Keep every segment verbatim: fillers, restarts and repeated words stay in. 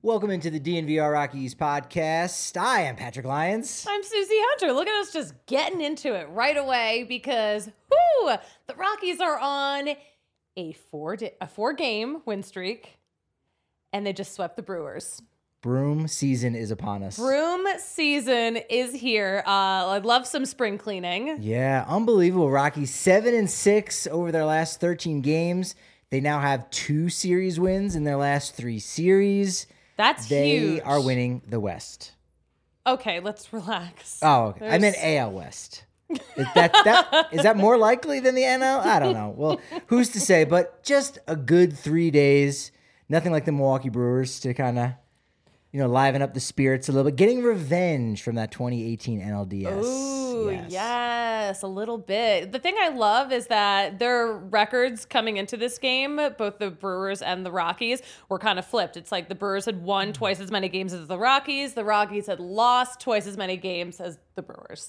Welcome into the D N V R Rockies podcast. I am Patrick Lyons. I'm Susie Hunter. Look at us just getting into it right away because whoo, the Rockies are on a four di- a four game win streak, and they just swept the Brewers. Broom season is upon us. Broom season is here. Uh, I'd love some spring cleaning. Yeah, unbelievable. Rockies seven and six over their last thirteen games. They now have two series wins in their last three series. That's they huge. They are winning the West. Okay, let's relax. Oh, okay. I meant A L West. Is that, that, is that more likely than the N L? I don't know. Well, who's to say? But just a good three days. Nothing like the Milwaukee Brewers to kind of, you know, liven up the spirits a little bit. Getting revenge from that twenty eighteen N L D S. Ooh, yes. yes, a little bit. The thing I love is that their records coming into this game, both the Brewers and the Rockies, were kind of flipped. It's like the Brewers had won twice as many games as the Rockies. The Rockies had lost twice as many games as the Brewers.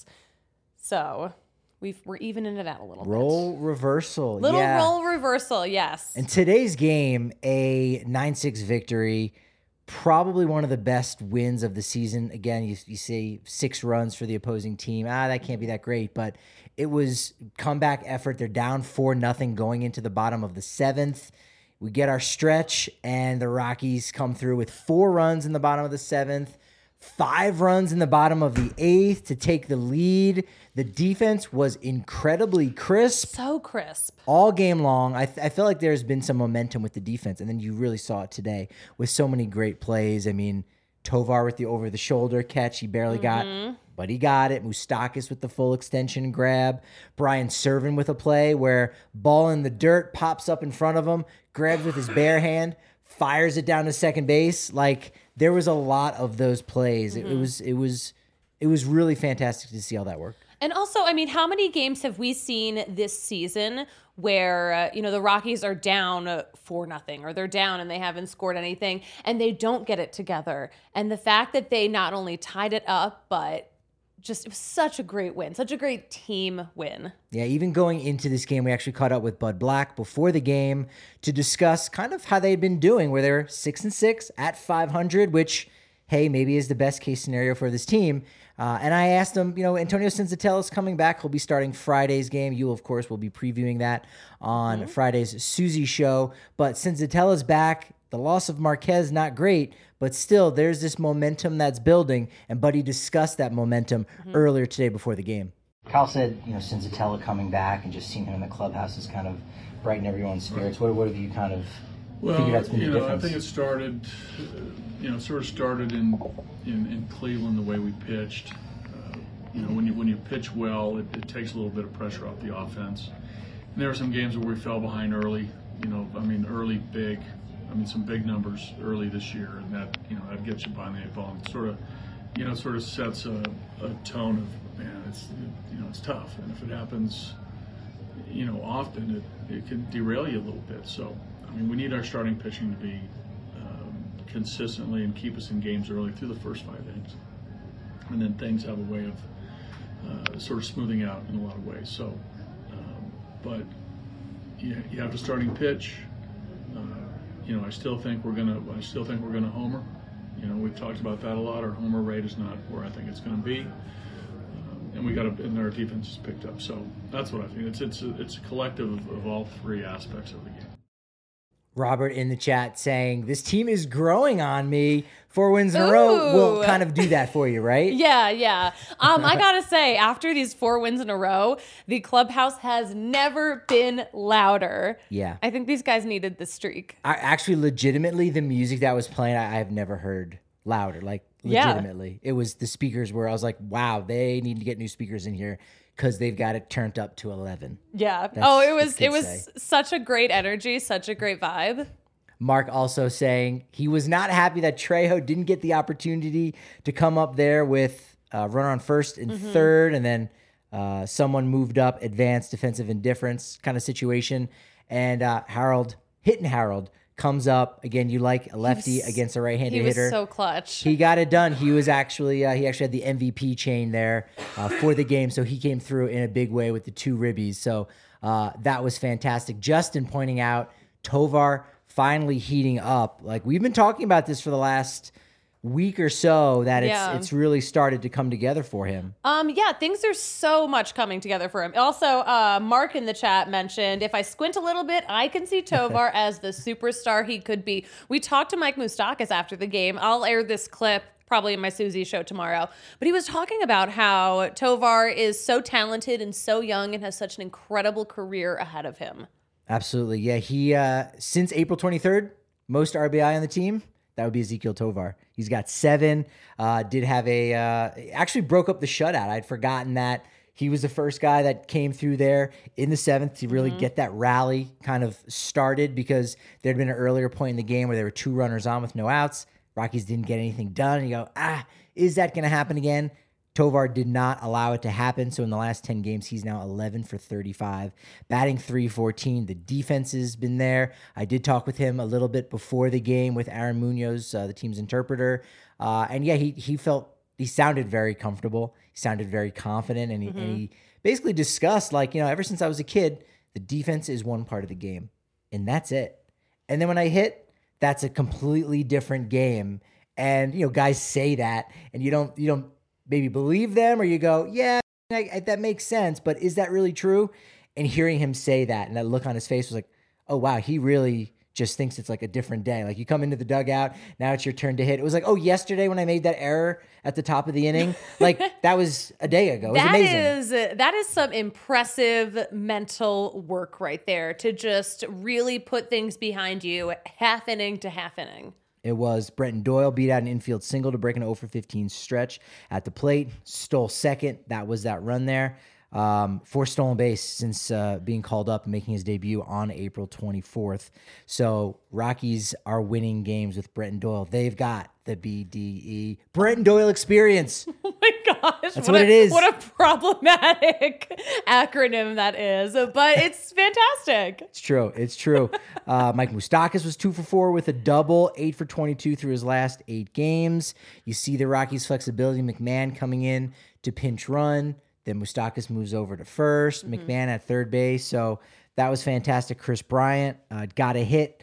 So we've, we're evening it out a little Role bit. reversal. Little yeah. role reversal, yes. In today's game, a nine six victory. Probably one of the best wins of the season. Again, you, you say six runs for the opposing team. Ah, that can't be that great, but it was comeback effort. They're down four nothing going into the bottom of the seventh. We get our stretch, and the Rockies come through with four runs in the bottom of the seventh, five runs in the bottom of the eighth to take the lead. The defense was incredibly crisp. So crisp. All game long. I, th- I feel like there's been some momentum with the defense, and then you really saw it today with so many great plays. I mean, Tovar with the over-the-shoulder catch, he barely mm-hmm. got, but he got it. Moustakas with the full extension grab. Brian Serven with a play where ball in the dirt pops up in front of him, grabs with his bare hand, fires it down to second base. Like, there was a lot of those plays. Mm-hmm. It, it was it was it was really fantastic to see all that work. And also, I mean, how many games have we seen this season where, uh, you know, the Rockies are down four nothing or they're down and they haven't scored anything and they don't get it together? And the fact that they not only tied it up, but just it was such a great win, such a great team win. Yeah, even going into this game, we actually caught up with Bud Black before the game to discuss kind of how they'd been doing, where they're six and six at five hundred, which, hey, maybe is the best case scenario for this team. Uh, and I asked him, you know, Antonio Senzatela is coming back. He'll be starting Friday's game. You, of course, will be previewing that on mm-hmm. Friday's Susie show. But Senzatela's back. The loss of Marquez, not great, but still there's this momentum that's building. And Buddy discussed that momentum mm-hmm. earlier today before the game. Kyle said, you know, Senzatela coming back and just seeing him in the clubhouse has kind of brightened everyone's spirits. What, what have you kind of well, figured out's been you the know, difference? I think it started, uh, you know, sort of started in, in, in Cleveland the way we pitched. Uh, you know, when you when you pitch well, it, it takes a little bit of pressure off the offense. And there were some games where we fell behind early. You know, I mean, early big. I mean, some big numbers early this year, and that, you know, that gets you behind the eight ball. And sort of, you know, sort of sets a, a tone of, man, it's, it, you know, it's tough. And if it happens, you know, often, it, it can derail you a little bit. So, I mean, we need our starting pitching to be um, consistently and keep us in games early through the first five innings. And then things have a way of uh, sort of smoothing out in a lot of ways. So, um, but you, you have the starting pitch. Uh, you know, I still think we're gonna. I still think we're gonna homer. You know, we've talked about that a lot. Our homer rate is not where I think it's going to be, um, and we got to. And our defense is picked up. So that's what I think. It's it's a, it's a collective of, of all three aspects of the game. Robert in the chat saying, this team is growing on me. Four wins in a row will kind of do that for you, right? Yeah, yeah. Um, I got to say, after these four wins in a row, the clubhouse has never been louder. Yeah. I think these guys needed the streak. I, actually, legitimately, the music that was playing, I, I have never heard louder. Like, legitimately. Yeah. It was the speakers where I was like, wow, they need to get new speakers in here because they've got it turned up to eleven. Yeah. That's oh, it was it was say. such a great energy, such a great vibe. Mark also saying he was not happy that Trejo didn't get the opportunity to come up there with uh, runner on first and mm-hmm. third, and then uh, someone moved up, advanced defensive indifference kind of situation. And uh, Harold, hitting Harold, comes up. Again, you like a lefty was, against a right-handed he was hitter. So clutch. He got it done. He was actually, uh, he actually had the M V P chain there uh, for the game, so he came through in a big way with the two ribbies. So uh, that was fantastic. Justin pointing out Tovar, finally heating up. Like, we've been talking about this for the last week or so, that it's Yeah. it's really started to come together for him. Um, yeah, things are so much coming together for him. Also, uh, Mark in the chat mentioned, if I squint a little bit, I can see Tovar as the superstar he could be. We talked to Mike Moustakas after the game. I'll air this clip probably in my Susie show tomorrow. But he was talking about how Tovar is so talented and so young and has such an incredible career ahead of him. Absolutely. Yeah, he, uh, since April twenty-third, most R B I on the team, that would be Ezequiel Tovar. He's got seven, uh, did have a, uh, actually broke up the shutout. I'd forgotten that he was the first guy that came through there in the seventh to really mm-hmm. get that rally kind of started, because there'd been an earlier point in the game where there were two runners on with no outs. Rockies didn't get anything done. And you go, ah, is that going to happen again? Tovar did not allow it to happen. So in the last ten games, he's now eleven for thirty-five, batting three fourteen. The defense has been there. I did talk with him a little bit before the game with Aaron Munoz, uh, the team's interpreter. Uh, and yeah, he he felt, he sounded very comfortable. He sounded very confident. And he, mm-hmm. and he basically discussed, like, you know, ever since I was a kid, the defense is one part of the game. And that's it. And then when I hit, that's a completely different game. And, you know, guys say that, and you don't, you don't, maybe believe them, or you go, yeah, I, I, that makes sense, but is that really true? And hearing him say that, and that look on his face was like, oh, wow, he really just thinks it's like a different day. Like, you come into the dugout, now it's your turn to hit. It was like, oh, yesterday when I made that error at the top of the inning, like that was a day ago. It was that amazing. Is, that is some impressive mental work right there, to just really put things behind you half inning to half inning. It was. Brenton Doyle beat out an infield single to break an oh for fifteen stretch at the plate. Stole second. That was that run there. Um, four stolen base since uh, being called up and making his debut on April twenty-fourth. So Rockies are winning games with Brenton Doyle. They've got the B D E, Brenton Doyle experience. Oh my gosh. That's what, what a, it is. What a problematic acronym that is, but it's fantastic. It's true. It's true. uh, Mike Moustakas was two for four with a double, eight for twenty-two through his last eight games. You see the Rockies' flexibility. McMahon coming in to pinch run. Then Moustakas moves over to first. Mm-hmm. McMahon at third base. So that was fantastic. Chris Bryant uh, got a hit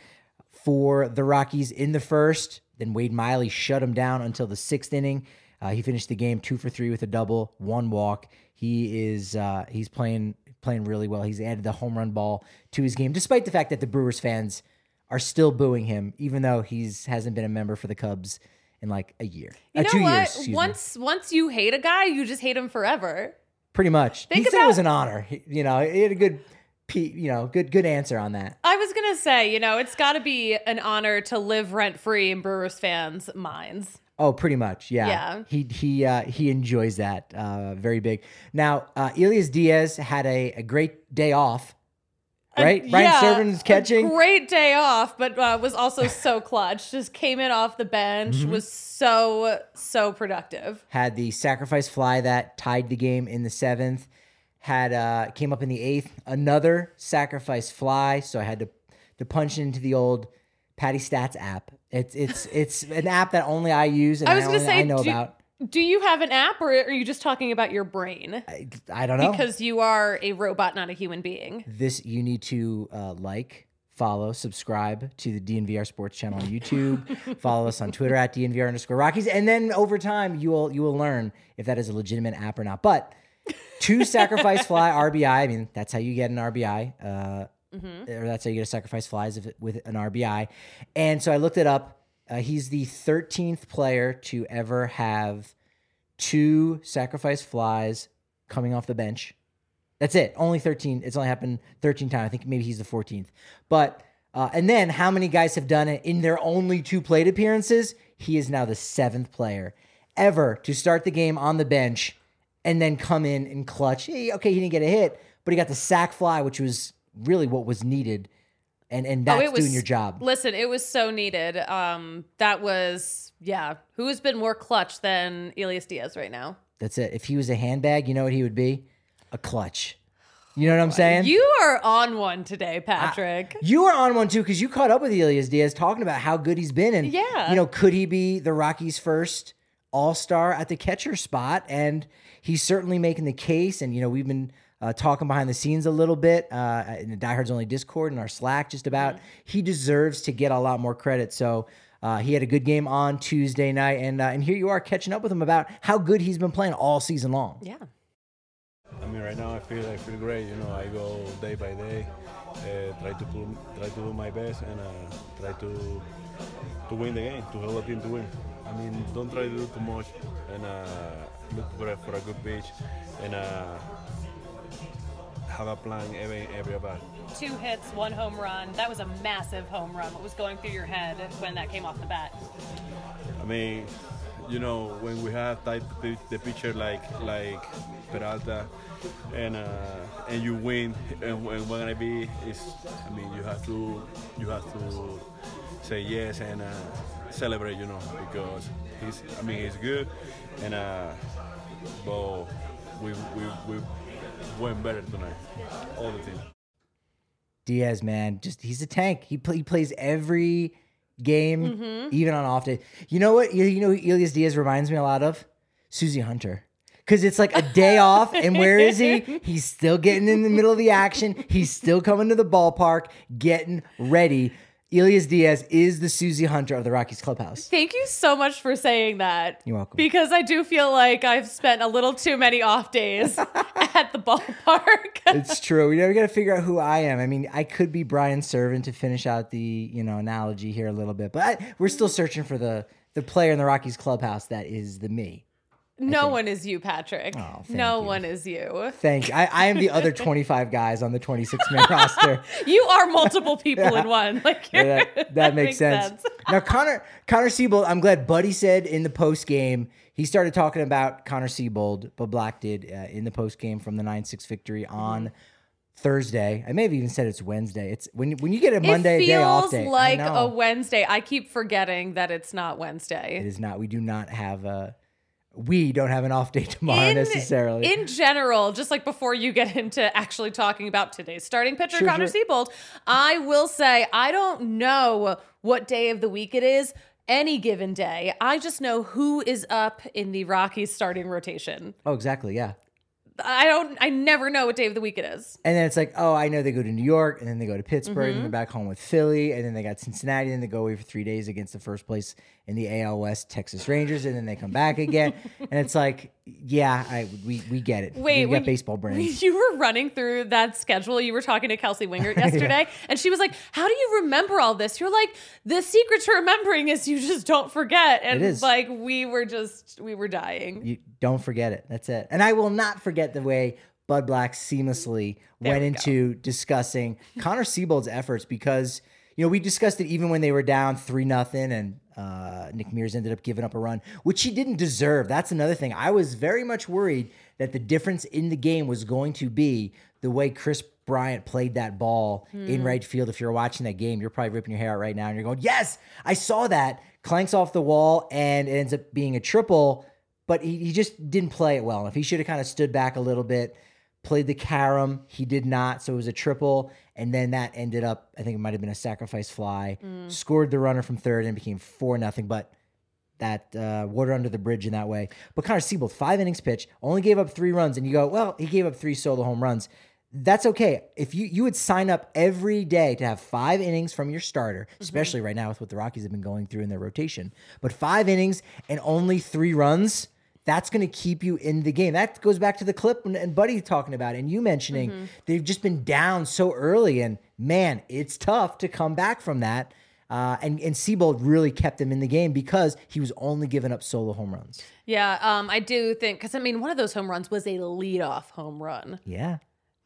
for the Rockies in the first. Then Wade Miley shut him down until the sixth inning. Uh, he finished the game two for three with a double, one walk. He is uh, he's playing playing really well. He's added the home run ball to his game, despite the fact that the Brewers fans are still booing him, even though he's hasn't been a member for the Cubs in like a year. You uh, know two what? years. Once me. once you hate a guy, you just hate him forever. Pretty much. Think he said about, it was an honor. He, you know, he had a good, you know, good good answer on that. I was gonna say, you know, it's got to be an honor to live rent free in Brewers fans' minds. Oh, pretty much, yeah. Yeah. He he uh, he enjoys that uh, very big. Now, uh, Elias Diaz had a, a great day off. Right? Uh, Ryan yeah, Servin's catching. Great day off, but uh, was also so clutch. Just came in off the bench, mm-hmm. was so, so productive. Had the sacrifice fly that tied the game in the seventh. Had uh, came up in the eighth. Another sacrifice fly. So I had to, to punch into the old Patty Stats app. It's it's it's an app that only I use and I, was I, only, say, I know do, about. Do you have an app, or are you just talking about your brain? I, I don't know. Because you are a robot, not a human being. This, you need to uh, like, follow, subscribe to the D N V R Sports channel on YouTube. Follow us on Twitter at D N V R underscore Rockies. And then over time, you will you will learn if that is a legitimate app or not. But two sacrifice fly R B I. I mean, that's how you get an R B I. Uh, mm-hmm. Or that's how you get a sacrifice flies with an R B I. And so I looked it up. Uh, he's the thirteenth player to ever have two sacrifice flies coming off the bench. That's it. Only thirteen. It's only happened thirteen times. I think maybe he's the fourteenth. But, uh, and then how many guys have done it in their only two plate appearances? He is now the seventh player ever to start the game on the bench and then come in and clutch. Hey, okay, he didn't get a hit, but he got the sac fly, which was really what was needed. And and that's oh, was, doing your job. Listen, it was so needed. Um, that was, yeah. Who has been more clutch than Elias Diaz right now? That's it. If he was a handbag, you know what he would be? A clutch. You know what I'm saying? You are on one today, Patrick. I, you are on one too, because you caught up with Elias Diaz talking about how good he's been. And, yeah. you know, could he be the Rockies' first all-star at the catcher spot? And he's certainly making the case. And, you know, we've been uh, talking behind the scenes a little bit uh, in the Diehards Only Discord and our Slack just about. Mm-hmm. He deserves to get a lot more credit. So uh, he had a good game on Tuesday night, and uh, and here you are catching up with him about how good he's been playing all season long. Yeah. I mean, right now I feel I feel great. You know, I go day by day, uh, try to pull, try to do my best, and uh, try to to win the game, to help the team to win. I mean, don't try to do too much, and uh, look for a, for a good pitch, and uh, have a plan every every about. Two hits, one home run. That was a massive home run. What was going through your head when that came off the bat? I mean, you know, when we have type the, the pitcher like like Peralta, and uh, and you win, and, and what gonna be is, I mean, you have to you have to say yes and uh, celebrate, you know, because he's, I mean, he's good, and uh, but we we we went better tonight, all the team. Diaz, man, just he's a tank. He play, he plays every game, mm-hmm. even on off day. You know what? You, you know who Elias Diaz reminds me a lot of? Susie Hunter. Because it's like a day off, and where is he? He's still getting in the middle of the action. He's still coming to the ballpark, getting ready. Elias Diaz is the Susie Hunter of the Rockies clubhouse. Thank you so much for saying that. You're welcome. Because I do feel like I've spent a little too many off days at the ballpark. It's true. We never got to figure out who I am. I mean, I could be Brian Servant to finish out the, you know, analogy here a little bit, but I, we're still searching for the the player in the Rockies clubhouse that is the me. No one is you, Patrick. Oh, no you. one is you. Thank you. I, I am the other twenty-five guys on the twenty-six man roster. You are multiple people yeah. in one. Like yeah, that, that, that makes, makes sense. sense. Now, Connor Connor Seabold, I'm glad Buddy said in the post game, he started talking about Connor Seabold, but Black did uh, in the post game from the nine six victory on Thursday. I may have even said it's Wednesday. It's when when you get a Monday it day off day. It feels like a Wednesday. I keep forgetting that it's not Wednesday. It is not. We do not have a. We don't have an off day tomorrow in, necessarily. In general, just like before you get into actually talking about today's starting pitcher, sure, Connor sure. Seabold, I will say I don't know what day of the week it is any given day. I just know who is up in the Rockies starting rotation. Oh, exactly. Yeah. I don't, I never know what day of the week it is. And then it's like, oh, I know they go to New York, and then they go to Pittsburgh, mm-hmm. and they're back home with Philly, and then they got Cincinnati, and they go away for three days against the first place in the A L West, Texas Rangers, and then they come back again. And it's like, yeah, I we we get it. Wait, we got baseball brains. You were running through that schedule. You were talking to Kelsey Wingert yesterday, yeah. and she was like, how do you remember all this? You're like, the secret to remembering is you just don't forget. And it is. Like, we were just, we were dying. You don't forget it. That's it. And I will not forget the way Bud Black seamlessly there went we into go. discussing Connor Seabold's efforts because, you know, we discussed it even when they were down three nothing and uh, Nick Mears ended up giving up a run, which he didn't deserve. That's another thing. I was very much worried that the difference in the game was going to be the way Chris Bryant played that ball hmm. in right field. If you're watching that game, you're probably ripping your hair out right now and you're going, yes, I saw that. Clanks off the wall and it ends up being a triple, but he, he just didn't play it well enough. He should have kind of stood back a little bit. Played the carom. He did not. So it was a triple. And then that ended up, I think it might have been a sacrifice fly. Mm. Scored the runner from third and became four nothing. But that uh, water under the bridge in that way. But Connor Seabold, five innings pitch, only gave up three runs. And you go, well, he gave up three solo home runs. That's okay. If you, you would sign up every day to have five innings from your starter, mm-hmm. especially right now with what the Rockies have been going through in their rotation. But five innings and only three runs, that's going to keep you in the game. That goes back to the clip and Buddy talking about it, and you mentioning mm-hmm. they've just been down so early, and man, it's tough to come back from that. Uh, and, and Seabold really kept them in the game because he was only giving up solo home runs. Yeah, um, I do think, because I mean, one of those home runs was a leadoff home run. Yeah.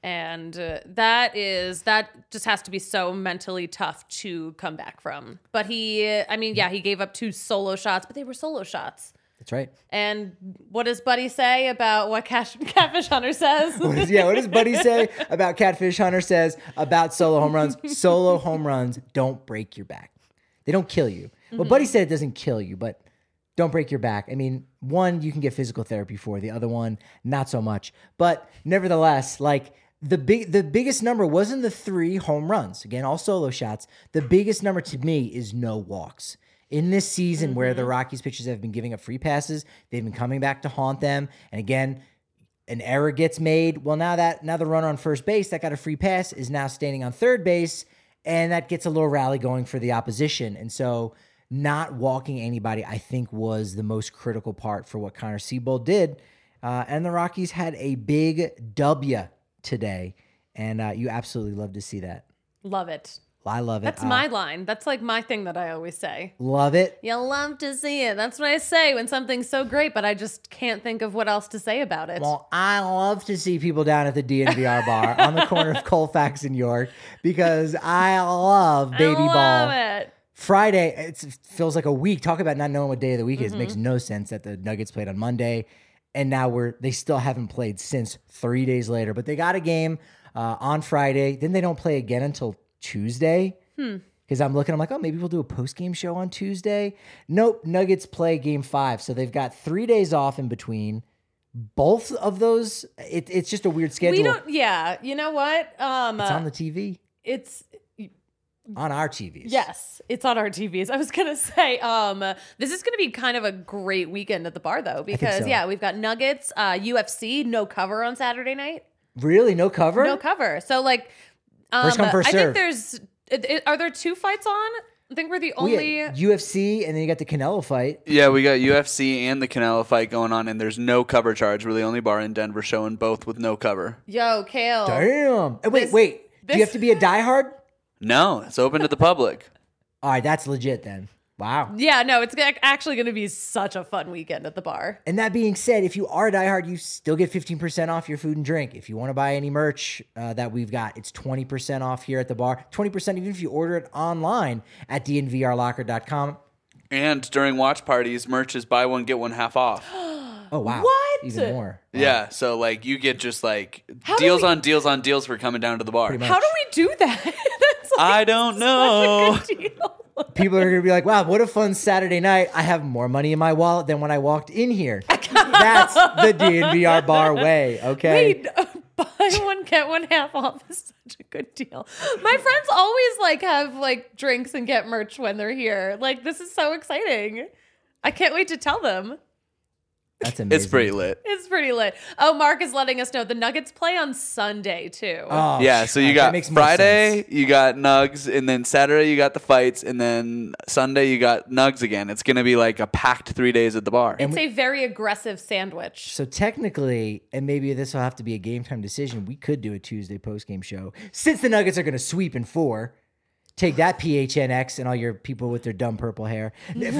And uh, that is, that just has to be so mentally tough to come back from. But he, I mean, yeah, he gave up two solo shots, but they were solo shots. That's right. And what does Buddy say about what Cash, Catfish Hunter says? What is, yeah, what does Buddy say about Catfish Hunter says about solo home runs? Solo home runs don't break your back. They don't kill you. Mm-hmm. Well, Buddy said it doesn't kill you, but don't break your back. I mean, one, you can get physical therapy for. The other one, not so much. But nevertheless, like the big, the biggest number wasn't the three home runs. Again, all solo shots. The biggest number to me is no walks. In this season mm-hmm. where the Rockies pitchers have been giving up free passes, they've been coming back to haunt them. And again, an error gets made. Well, now that now the runner on first base that got a free pass is now standing on third base, and that gets a little rally going for the opposition. And so not walking anybody, I think, was the most critical part for what Connor Seabold did. Uh, and the Rockies had a big W today, and uh, you absolutely love to see that. Love it. I love it. That's uh, my line. That's like my thing that I always say. Love it. You love to see it. That's what I say when something's so great, but I just can't think of what else to say about it. Well, I love to see people down at the D N V R bar on the corner of Colfax and York because I love baby I love ball. it. Friday, it's, it feels like a week. Talk about not knowing what day of the week is. Mm-hmm. It makes no sense that the Nuggets played on Monday, and now we're they still haven't played since three days later. But they got a game uh, on Friday. Then they don't play again until Tuesday. Hmm. Because I'm looking, I'm like, oh, maybe we'll do a post-game show on Tuesday. Nope, Nuggets play game five. So they've got three days off in between. Both of those, it, it's just a weird schedule. We don't, yeah, you know what? Um, It's on the T V. It's, On our T Vs. yes, it's on our T Vs. I was going to say, um, this is going to be kind of a great weekend at the bar, though, because, so. yeah, we've got Nuggets, uh, U F C, no cover on Saturday night. Really? No cover? No cover. So, like, um, First come, first I serve. think there's, it, it- are there two fights on? I think we're the Well, only. yeah, U F C, and then you got the Canelo fight. Yeah, we got U F C and the Canelo fight going on, and there's no cover charge. We're the only bar in Denver showing both with no cover. Yo, Kale. Damn. Hey, wait, This- wait. Do you this- have to be a diehard? No, it's open to the public. All right, that's legit then. Wow. Yeah, no, it's ac- actually going to be such a fun weekend at the bar. And that being said, if you are a diehard, you still get fifteen percent off your food and drink. If you want to buy any merch uh, that we've got, it's twenty percent off here at the bar. twenty percent even if you order it online at d n v r locker dot com. And during watch parties, merch is buy one, get one half off. Oh, wow. What? Even more. Wow. Yeah, so like you get just like How do deals we- on deals on deals for coming down to the bar. Pretty much. How do we do that? That's like I don't know. such a good deal. People are going to be like, wow, what a fun Saturday night. I have more money in my wallet than when I walked in here. That's the D N V R bar way, okay? Wait, uh, buy one get one half off is such a good deal. My friends always like have like drinks and get merch when they're here. Like this is so exciting. I can't wait to tell them. That's amazing. It's pretty lit. It's pretty lit. Oh, Mark is letting us know the Nuggets play on Sunday too. Oh, Yeah, so you that got makes more Friday, sense. you got Nugs, and then Saturday you got the fights, and then Sunday you got Nugs again. It's gonna be like a packed three days at the bar. It's a very aggressive sandwich. So technically, and maybe this will have to be a game time decision, we could do a Tuesday post-game show. Since the Nuggets are going to sweep in four, take that P H N X and all your people with their dumb purple hair.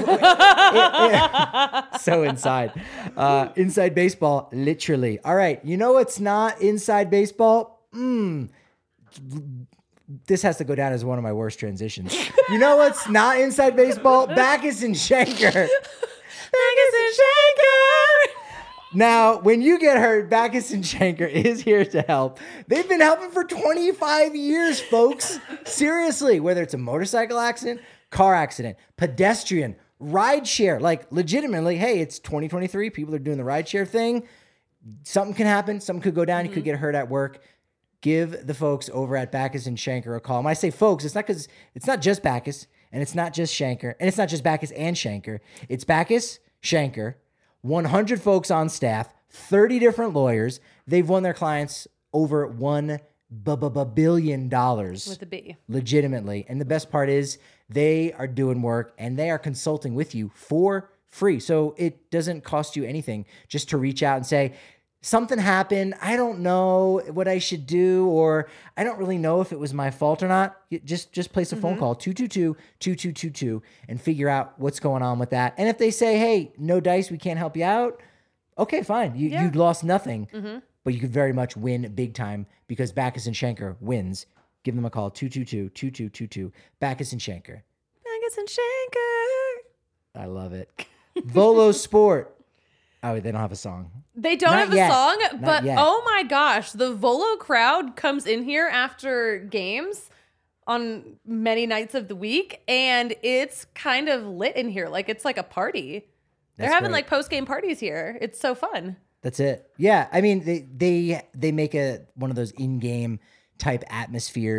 So inside. Uh, inside baseball, literally. All right, you know what's not inside baseball? Mm. This has to go down as one of my worst transitions. You know what's not inside baseball? Backus and Schenker. Backus and Schenker. Now, when you get hurt, Backus and Schenker is here to help. They've been helping for twenty-five years, folks. Seriously, whether it's a motorcycle accident, car accident, pedestrian, ride share, like legitimately, hey, it's twenty twenty-three. People are doing the ride share thing. Something can happen. Something could go down. You could get hurt at work. Give the folks over at Backus and Schenker a call. When I say folks, it's not because it's not just Backus and it's not just Schenker and it's not just Backus and Schenker. It's Backus, Schenker, one hundred folks on staff, thirty different lawyers. They've won their clients over one billion dollars. With a B. Legitimately. And the best part is they are doing work and they are consulting with you for free. So it doesn't cost you anything just to reach out and say, something happened. I don't know what I should do, or I don't really know if it was my fault or not. You just just place a phone call, two two two, two two two two, and figure out what's going on with that. And if they say, hey, no dice, we can't help you out, okay, fine. You, Yeah. you lost nothing, but you could very much win big time because Backus and Schenker wins. Give them a call, two two two, two two two two, Backus and Schenker. Backus and Schenker. I love it. Volo Sport. Oh, they don't have a song. They don't Not have a yet. song, Not but yet. oh my gosh, the Volo crowd comes in here after games on many nights of the week, and it's kind of lit in here. Like it's like a party. They're That's having great. like post game parties here. It's so fun. That's it. Yeah, I mean they they they make a one of those in-game type atmospheres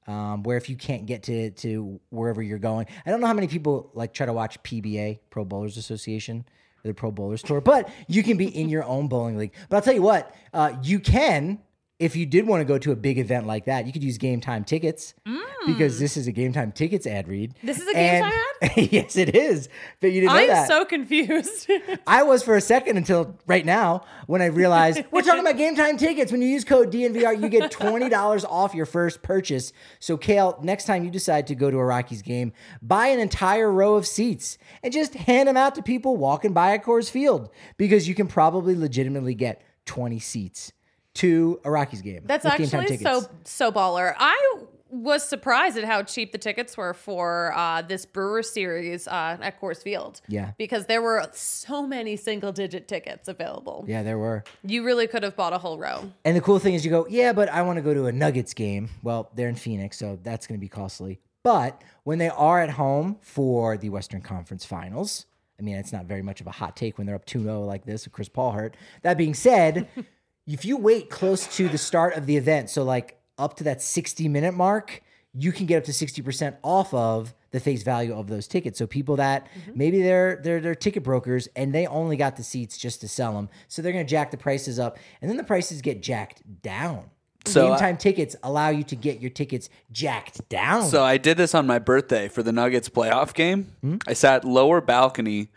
Um, where if you can't get to to wherever you're going, I don't know how many people like try to watch P B A, Pro Bowlers Association, or the Pro Bowlers Tour, but you can be in your own bowling league. But I'll tell you what, uh, you can, if you did want to go to a big event like that, you could use Game Time Tickets mm. because this is a Game Time Tickets ad read. This is a Game and, Time ad? Yes, it is. But you didn't know I'm that. I'm so confused. I was for a second until right now when I realized we're talking about Game Time Tickets. When you use code D N V R, you get twenty dollars off your first purchase. So, Kale, next time you decide to go to a Rockies game, buy an entire row of seats and just hand them out to people walking by at Coors Field because you can probably legitimately get twenty seats to a Rockies game. That's actually so so baller. I was surprised at how cheap the tickets were for uh, this Brewer series uh, at Coors Field. Yeah. Because there were so many single digit tickets available. Yeah, there were. You really could have bought a whole row. And the cool thing is you go, yeah, but I want to go to a Nuggets game. Well, they're in Phoenix, so that's going to be costly. But when they are at home for the Western Conference Finals, I mean, it's not very much of a hot take when they're up two oh like this with Chris Paul hurt. That being said, if you wait close to the start of the event, so like up to that sixty minute mark, you can get up to sixty percent off of the face value of those tickets. So people that mm-hmm. maybe they're, they're, they're ticket brokers and they only got the seats just to sell them. So they're going to jack the prices up and then the prices get jacked down. So Game Time uh, tickets allow you to get your tickets jacked down. So I did this on my birthday for the Nuggets playoff game. Mm-hmm. I sat lower balcony,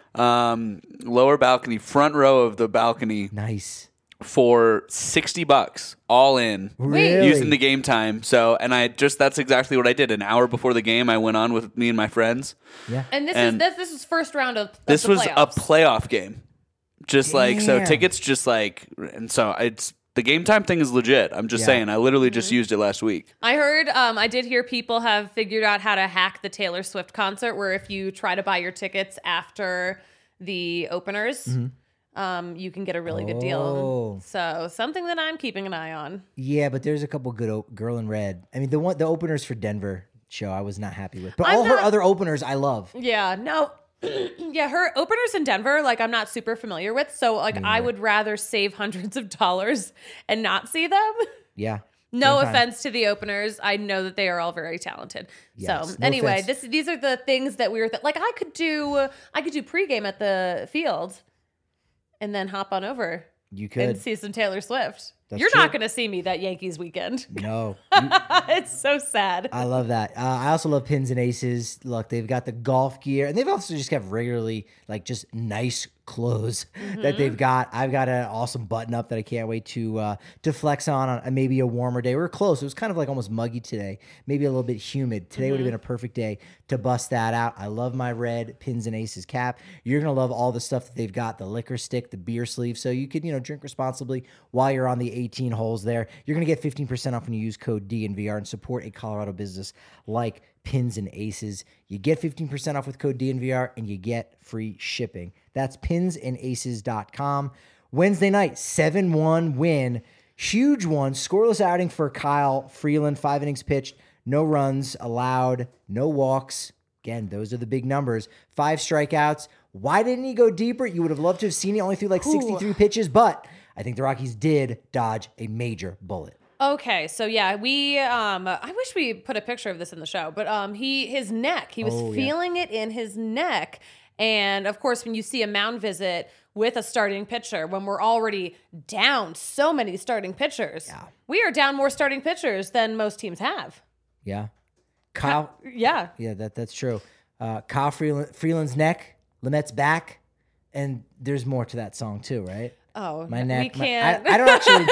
um, lower balcony, front row of the balcony. Nice. For sixty bucks all in really? Using the Game Time. So, and I just, that's exactly what I did. An hour before the game, I went on with me and my friends. Yeah. And this and is, this, this is first round of, of this the was playoffs. a playoff game. Just Damn. like, so tickets just like, and so it's, the Game Time thing is legit. I'm just yeah. saying, I literally mm-hmm. just used it last week. I heard, um, I did hear people have figured out how to hack the Taylor Swift concert where if you try to buy your tickets after the openers, mm-hmm. Um, you can get a really good deal. Oh. So something that I'm keeping an eye on. Yeah, but there's a couple good o- Girl in Red. I mean, the one the openers for Denver show I was not happy with, but I'm all not, her other openers I love. Yeah, no, yeah, her openers in Denver, like I'm not super familiar with. So like I would rather save hundreds of dollars and not see them. Yeah. No offense to the openers. I know that they are all very talented. Yes, so no anyway, offense. this these are the things that we were th- like. I could do I could do pregame at the field. And then hop on over. You could. And see some Taylor Swift. That's You're true. not going to see me that Yankees weekend. No. You, it's so sad. I love that. Uh, I also love Pins and Aces. Look, they've got the golf gear, and they've also just got regularly, like, just nice clothes mm-hmm. that they've got. I've got an awesome button up that I can't wait to uh, to flex on on maybe a warmer day. We were close. It was kind of like almost muggy today, maybe a little bit humid. Today mm-hmm. would have been a perfect day to bust that out. I love my red Pins and Aces cap. You're going to love all the stuff that they've got, the liquor stick, the beer sleeve, so you could, you know, drink responsibly while you're on the eighteen holes there. You're going to get fifteen percent off when you use code D N V R and support a Colorado business like Pins and Aces. You get fifteen percent off with code D N V R and you get free shipping. That's pins and aces dot com. Wednesday night, seven one win. Huge one. Scoreless outing for Kyle Freeland. Five innings pitched. No runs allowed. No walks. Again, those are the big numbers. Five strikeouts. Why didn't he go deeper? You would have loved to have seen it. Only threw like sixty-three Ooh. pitches, but I think the Rockies did dodge a major bullet. Okay, so yeah, we um I wish we put a picture of this in the show, but um he his neck, he was oh, feeling yeah. it in his neck. And of course, when you see a mound visit with a starting pitcher, when we're already down so many starting pitchers, yeah. we are down more starting pitchers than most teams have. Yeah. Kyle. Yeah. Yeah, that that's true. Uh, Kyle Freeland, Freeland's neck, Lamette's back, and there's more to that song too, right? Oh, my neck. We can't. My, I, I don't actually.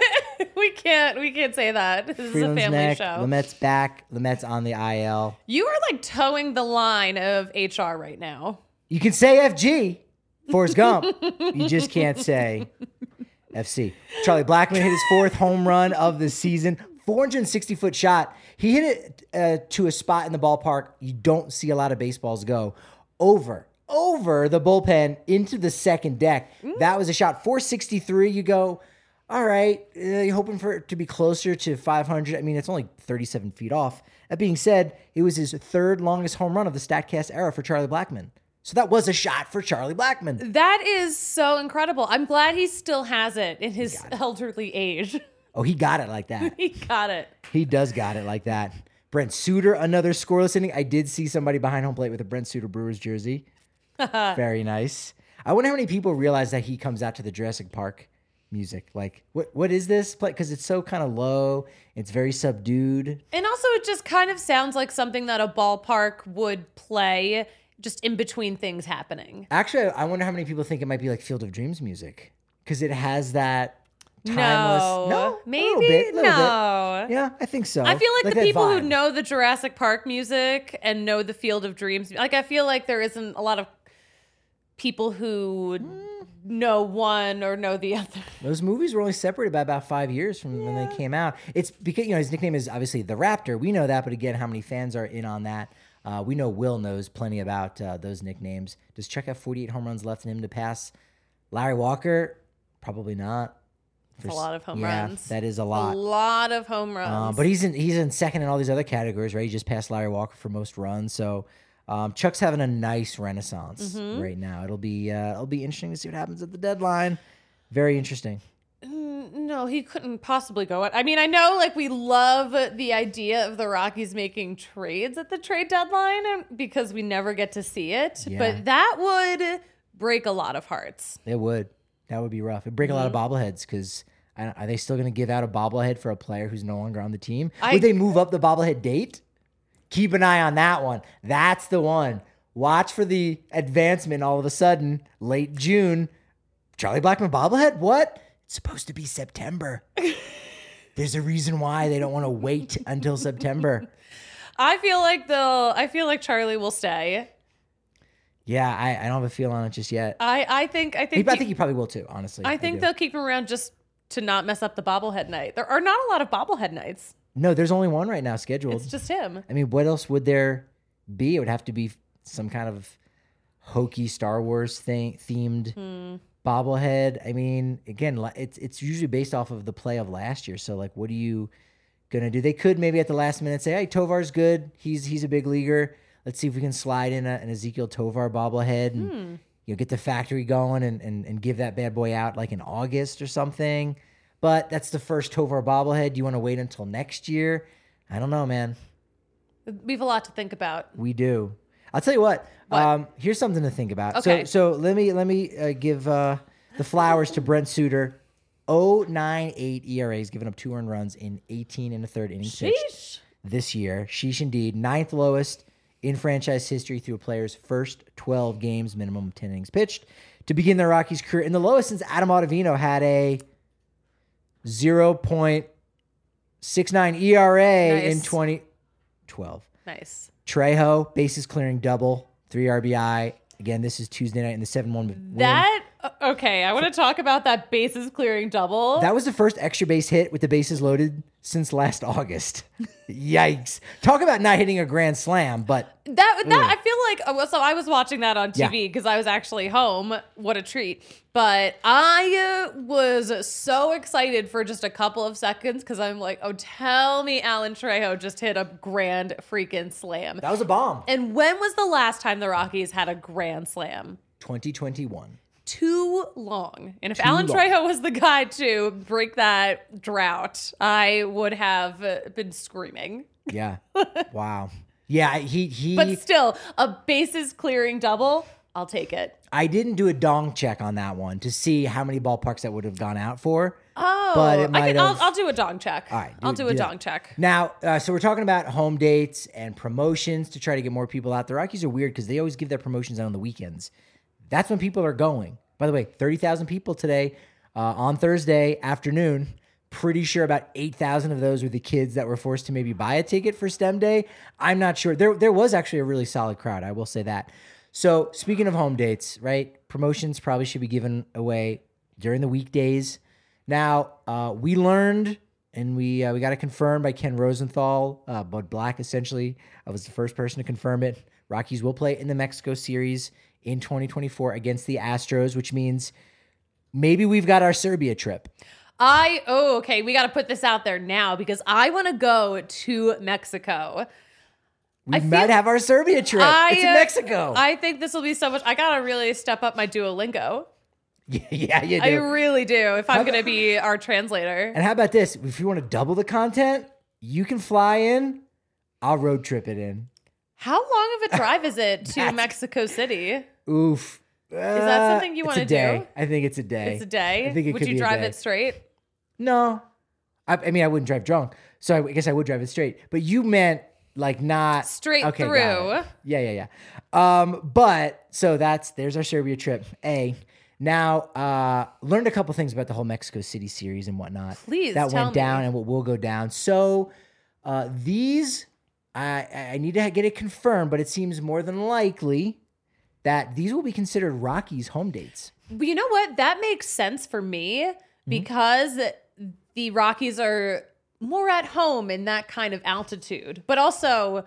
we can't. We can't say that. This Freeland's is a family neck, show. Lamette's back. Lamette's on the I L. You are like towing the line of H R right now. You can say F G, Forrest Gump. You just can't say F C. Charlie Blackmon hit his fourth home run of the season. four hundred sixty foot shot. He hit it uh, to a spot in the ballpark you don't see a lot of baseballs go. Over, over the bullpen into the second deck. Mm. That was a shot. four sixty-three. You go, all right, uh, you're hoping for it to be closer to five hundred. I mean, it's only thirty-seven feet off. That being said, it was his third longest home run of the StatCast era for Charlie Blackmon. So that was a shot for Charlie Blackmon. That is so incredible. I'm glad he still has it in his elderly age. Oh, he got it like that. He got it. He does got it like that. Brent Suter, another scoreless inning. I did see somebody behind home plate with a Brent Suter Brewers jersey. Very nice. I wonder how many people realize that he comes out to the Jurassic Park music. Like, what what is this? Because it's so kind of low. It's very subdued. And also, it just kind of sounds like something that a ballpark would play just in between things happening. Actually, I wonder how many people think it might be like Field of Dreams music. Because it has that timeless... No. No? Maybe? A little bit, little no. bit. Yeah, I think so. I feel like, Like the that people who vibe. know the Jurassic Park music and know the Field of Dreams, like I feel like there isn't a lot of people who know one or know the other. Those movies were only separated by about five years from yeah. when they came out. It's because, you know, his nickname is obviously the Raptor. We know that, but again, how many fans are in on that? Uh, we know Will knows plenty about uh, those nicknames. Does Chuck have forty-eight home runs left in him to pass Larry Walker? Probably not. That's a lot of home yeah, runs. That is a lot. A lot of home runs. Uh, but he's in he's in second in all these other categories, right? He just passed Larry Walker for most runs. So um, Chuck's having a nice renaissance mm-hmm. right now. It'll be uh, it'll be interesting to see what happens at the deadline. Very interesting. No, he couldn't possibly go. I mean, I know like we love the idea of the Rockies making trades at the trade deadline because we never get to see it. Yeah. But that would break a lot of hearts. It would. That would be rough. It'd break mm-hmm. a lot of bobbleheads because are they still going to give out a bobblehead for a player who's no longer on the team? I, would they move up the bobblehead date? Keep an eye on that one. That's the one. Watch for the advancement all of a sudden, late June. Charlie Blackmon bobblehead? What? It's supposed to be September. There's a reason why they don't want to wait until September. I feel like they'll, I feel like Charlie will stay. Yeah, I, I don't have a feel on it just yet. I, I think I think he, I think he probably will too, honestly. I think I they'll keep him around just to not mess up the bobblehead night. There are not a lot of bobblehead nights. No, there's only one right now scheduled. It's just him. I mean, what else would there be? It would have to be some kind of hokey Star Wars thing themed hmm. bobblehead. I mean, again, it's it's usually based off of the play of last year. So, like, what are you gonna do? They could maybe at the last minute say, "Hey, Tovar's good. He's he's a big leaguer. Let's see if we can slide in a, an Ezekiel Tovar bobblehead and hmm. you know get the factory going and, and and give that bad boy out like in August or something." But that's the first Tovar bobblehead. Do you want to wait until next year? I don't know, man. We have a lot to think about. We do. I'll tell you what. what? Um, here's something to think about. Okay. So so let me let me uh, give uh, the flowers to Brent Suter. oh point nine eight E R A. He's given up two earned runs in eighteen and a third innings pitched this year. Sheesh indeed. Ninth lowest in franchise history through a player's first twelve games, minimum of ten innings pitched, to begin the Rockies' career. And the lowest since Adam Ottavino had a zero point six nine E R A nice. in twenty twelve. Nice. Trejo, bases clearing double, three R B I. Again, this is Tuesday night in the seven one win. That, okay, I want to talk about that bases clearing double. That was the first extra base hit with the bases loaded since last August. Yikes. Talk about not hitting a grand slam, but... That, that I feel like... So I was watching that on T V because yeah. I was actually home. What a treat. But I uh, was so excited for just a couple of seconds because I'm like, oh, tell me Alan Trejo just hit a grand freaking slam. That was a bomb. And when was the last time the Rockies had a grand slam? twenty twenty-one. Too long. And if Too Alan long. Trejo was the guy to break that drought, I would have been screaming. Yeah. Wow. Yeah, he he. But still, a bases clearing double, I'll take it. I didn't do a dong check on that one to see how many ballparks that would have gone out for. Oh, but it might I can, have. I'll, I'll do a dong check. All right, do, I'll do, do a that. dong check. Now, uh, so we're talking about home dates and promotions to try to get more people out. The Rockies are weird because they always give their promotions out on the weekends. That's when people are going. By the way, thirty thousand people today uh, on Thursday afternoon. Pretty sure about eight thousand of those were the kids that were forced to maybe buy a ticket for STEM Day. I'm not sure. There, there was actually a really solid crowd. I will say that. So speaking of home dates, right? Promotions probably should be given away during the weekdays. Now, uh, we learned, and we uh, we got it confirmed by Ken Rosenthal, uh, Bud Black essentially. I was the first person to confirm it. Rockies will play in the Mexico series in twenty twenty-four against the Astros, which means maybe we've got our Serbia trip. I, oh, okay, we got to put this out there now because I want to go to Mexico. We I might feel, have our Serbia trip. I, it's in Mexico. I think this will be so much. I got to really step up my Duolingo. Yeah, yeah, you do. I really do. If I'm going to be our translator. And how about this? If you want to double the content, you can fly in. I'll road trip it in. How long of a drive is it to That's- Mexico City? Oof. Is that something you want wanna to do? do? I think it's a day. It's a day. I think it Would could you be a drive day. it straight? No. I, I mean, I wouldn't drive drunk. So I guess I would drive it straight. But you meant like not Straight okay, got through. it. Yeah, yeah, yeah. Um, but so that's there's our Serbia trip. A. Now, uh, learned a couple things about the whole Mexico City series and whatnot. Please that tell went me. down and what will go down. So uh, these, I I need to get it confirmed, but it seems more than likely that these will be considered Rockies home dates. But you know what? That makes sense for me Mm-hmm. because the Rockies are more at home in that kind of altitude. But also,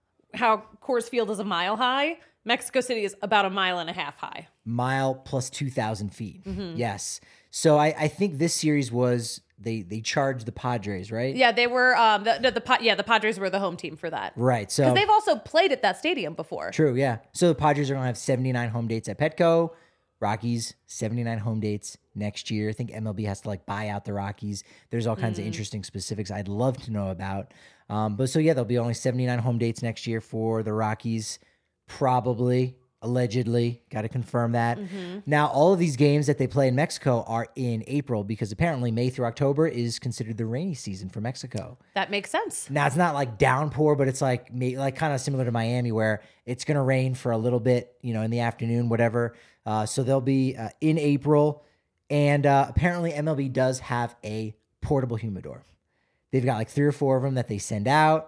how Coors Field is a mile high, Mexico City is about a mile and a half high. Mile plus two thousand feet. Mm-hmm. Yes. So I, I think this series was they they charged the Padres, right? Yeah, they were um the, the, the Pa- yeah the Padres were the home team for that. Right. So Because they've also played at that stadium before. true. Yeah. So the Padres are gonna have seventy-nine home dates at Petco. Rockies seventy-nine home dates next year. I think M L B has to like buy out the Rockies. There's all kinds of interesting specifics I'd love to know about. Um, but so yeah, there'll be only seventy-nine home dates next year for the Rockies. Probably, allegedly, got to confirm that. Now, all of these games that they play in Mexico are in April because apparently May through October is considered the rainy season for Mexico. That makes sense. Now, it's not like downpour, but it's like may- like kind of similar to Miami where it's going to rain for a little bit, you know, in the afternoon, whatever. Uh, so they'll be uh, in April. And uh, apparently M L B does have a portable humidor. They've got like three or four of them that they send out.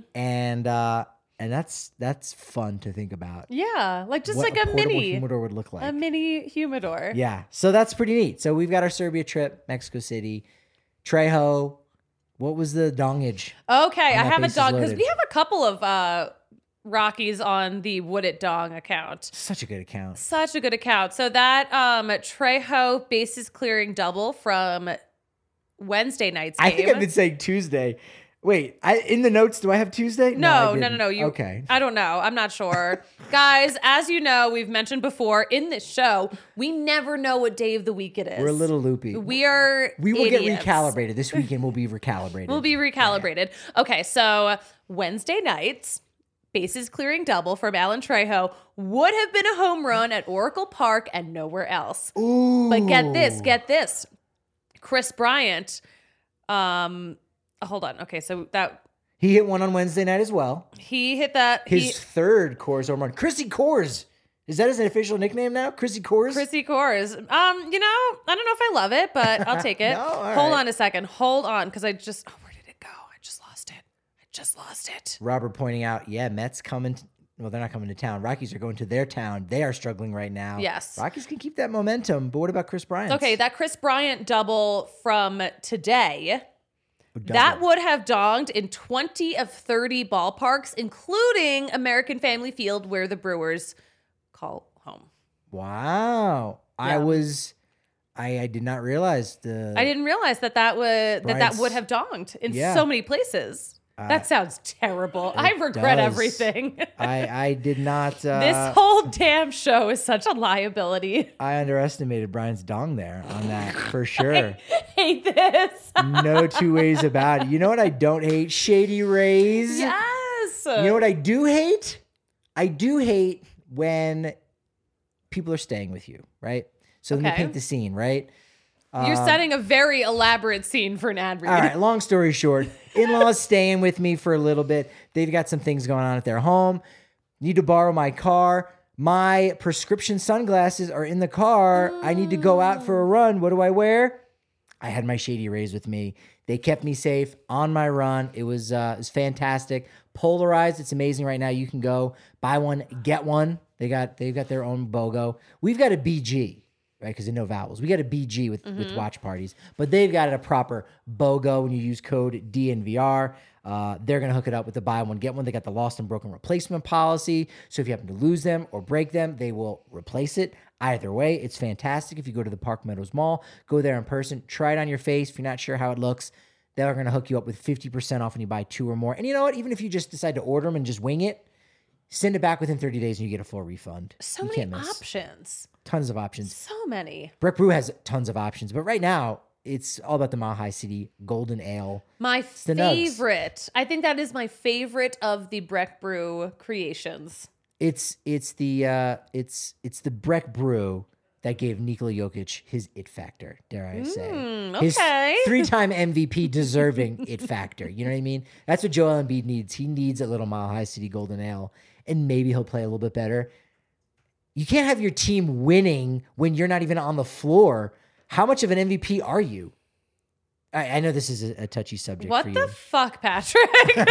And uh, and that's that's fun to think about. Yeah, like just What like a a, portable mini humidor would look like. a mini humidor. Yeah. So that's pretty neat. So we've got our Serbia trip, Mexico City. Trejo, what was the dongage? Okay, I that have a bases dog because loaded. we have a couple of uh, Rockies on the Would It Dong account. Such a good account. Such a good account. So that um, Trejo bases clearing double from Wednesday night's game. I think I've been saying Tuesday. Wait, I in the notes, do I have Tuesday? I No, no, no, didn't. no. You, okay. I don't know. I'm not sure. Guys, as you know, we've mentioned before in this show, we never know what day of the week it is. We're a little loopy. We are. We will idiots. get recalibrated. This weekend we'll be recalibrated. We'll be recalibrated. Okay, so Wednesday nights, bases clearing double from Alan Trejo would have been a home run at Oracle Park and nowhere else. Ooh. But get this, get this. Chris Bryant, um, hold on. Okay, so that He hit one on Wednesday night as well. he hit that. His he, third Coors home run. Chrissy Coors. Is that his official nickname now? Chrissy Coors? Chrissy Coors. Um, you know, I don't know if I love it, but I'll take it. No? All Hold right. on a second. Hold on, because I just oh, where did it go? I just lost it. I just lost it. Robert pointing out, yeah, Mets coming. To, well, they're not coming to town. Rockies are going to their town. They are struggling right now. Yes. Rockies can keep that momentum, but what about Chris Bryant? Okay, that Chris Bryant double from today. That would have donged in twenty of thirty ballparks, including American Family Field, where the Brewers call home. Wow. I Yeah. was, I, I did not realize the. I didn't realize that that would that, that Bryant's- would have donged in Yeah. so many places. Uh, that sounds terrible. I regret does. everything. I, I did not. Uh, This whole damn show is such a liability. I underestimated Brian's dong there on that for sure. Hate this. No two ways about it. You know what I don't hate? Shady Rays. Yes. You know what I do hate? I do hate when people are staying with you, right? So let me Okay. paint the scene, right? You're setting a very elaborate scene for an ad read. All right, long story short, in-laws staying with me for a little bit. They've got some things going on at their home. Need to borrow my car. My prescription sunglasses are in the car. I need to go out for a run. What do I wear? I had my Shady Rays with me. They kept me safe on my run. It was uh, it was fantastic. Polarized, it's amazing right now. You can go buy one, get one. They got they've got their own BOGO. We've got a B G. Right, because there's no vowels. We got a B G with, with watch parties, but they've got a proper BOGO when you use code D N V R. Uh, they're going to hook it up with the buy one, get one. They got the lost and broken replacement policy. So if you happen to lose them or break them, they will replace it. Either way, it's fantastic. If you go to the Park Meadows Mall, go there in person, try it on your face. If you're not sure how it looks, they're going to hook you up with fifty percent off when you buy two or more. And you know what? Even if you just decide to order them and just wing it, Send it back within thirty days and you get a full refund. So You many can't miss. options. Tons of options. So many. Breck Brew has tons of options, but right now it's all about the Mile High City Golden Ale. My the Nugs. favorite. I think that is my favorite of the Breck Brew creations. It's it's the uh, it's it's the Breck Brew that gave Nikola Jokic his it factor, dare I say. Mm, His okay. three-time M V P deserving it factor. You know what I mean? That's what Joel Embiid needs. He needs a little Mile High City Golden Ale, and maybe he'll play a little bit better. You can't have your team winning when you're not even on the floor. How much of an M V P are you? I, I know this is a, a touchy subject What for you. the fuck, Patrick?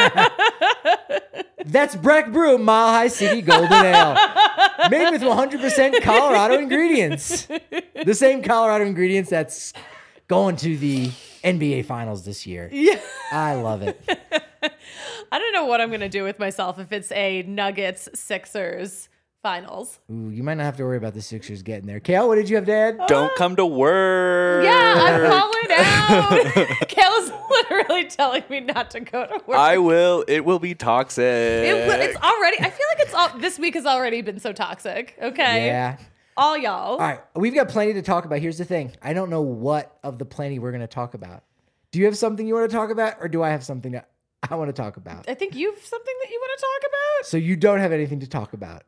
That's Breck Brew Mile High City Golden Ale. Made with one hundred percent Colorado ingredients. The same Colorado ingredients that's going to the N B A Finals this year. Yeah. I love it. I don't know what I'm going to do with myself if it's a Nuggets Sixers finals. Ooh, you might not have to worry about the Sixers getting there. Kale, what did you have to add? Don't come to work. Yeah, I'm calling out. Kayla's literally telling me not to go to work. I will. It will be toxic. It, will- it's already, I feel like it's all, this week has already been so toxic. Okay. Yeah. All y'all. All right. We've got plenty to talk about. Here's the thing. I don't know what of the plenty we're going to talk about. Do you have something you want to talk about, or do I have something that I want to talk about? I think you've something that you want to talk about. So you don't have anything to talk about.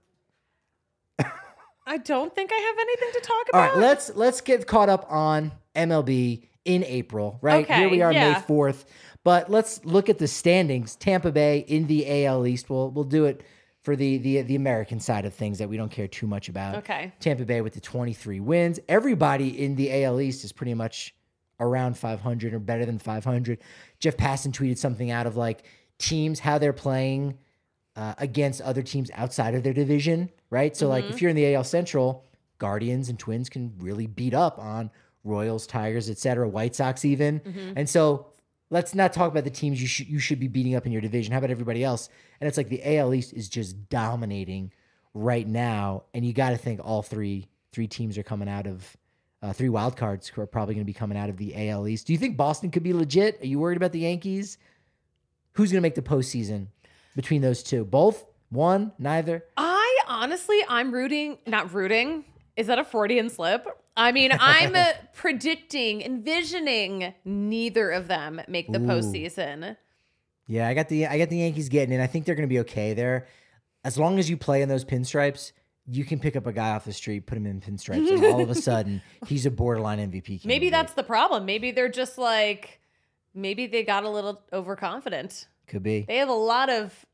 I don't think I have anything to talk All about. right, let's let's get caught up on M L B in April, right? Okay, Here we are, yeah. May fourth. But let's look at the standings. Tampa Bay in the A L East. We'll we'll do it for the the the American side of things that we don't care too much about. Okay. Tampa Bay with the twenty-three wins. Everybody in the A L East is pretty much around five hundred or better than five hundred. Jeff Passan tweeted something out of like teams, how they're playing uh, against other teams outside of their division, right? So like if you're in the A L Central, Guardians and Twins can really beat up on Royals, Tigers, et cetera, White Sox even. And so let's not talk about the teams you should you should be beating up in your division. How about everybody else? And it's like the A L East is just dominating right now, and you got to think all three three teams are coming out of uh, three wild cards who are probably going to be coming out of the A L East. Do you think Boston could be legit? Are you worried about the Yankees? Who's going to make the postseason between those two? Both? One? Neither? I honestly, I'm rooting, not rooting. Is that a Freudian slip? I mean, I'm uh, predicting, envisioning neither of them make the Ooh. postseason. Yeah, I got the I got the Yankees getting in. I think they're going to be okay there. As long as you play in those pinstripes, you can pick up a guy off the street, put him in pinstripes, and all of a sudden, he's a borderline M V P candidate. Maybe that's the problem. Maybe they're just like, maybe they got a little overconfident. Could be. They have a lot of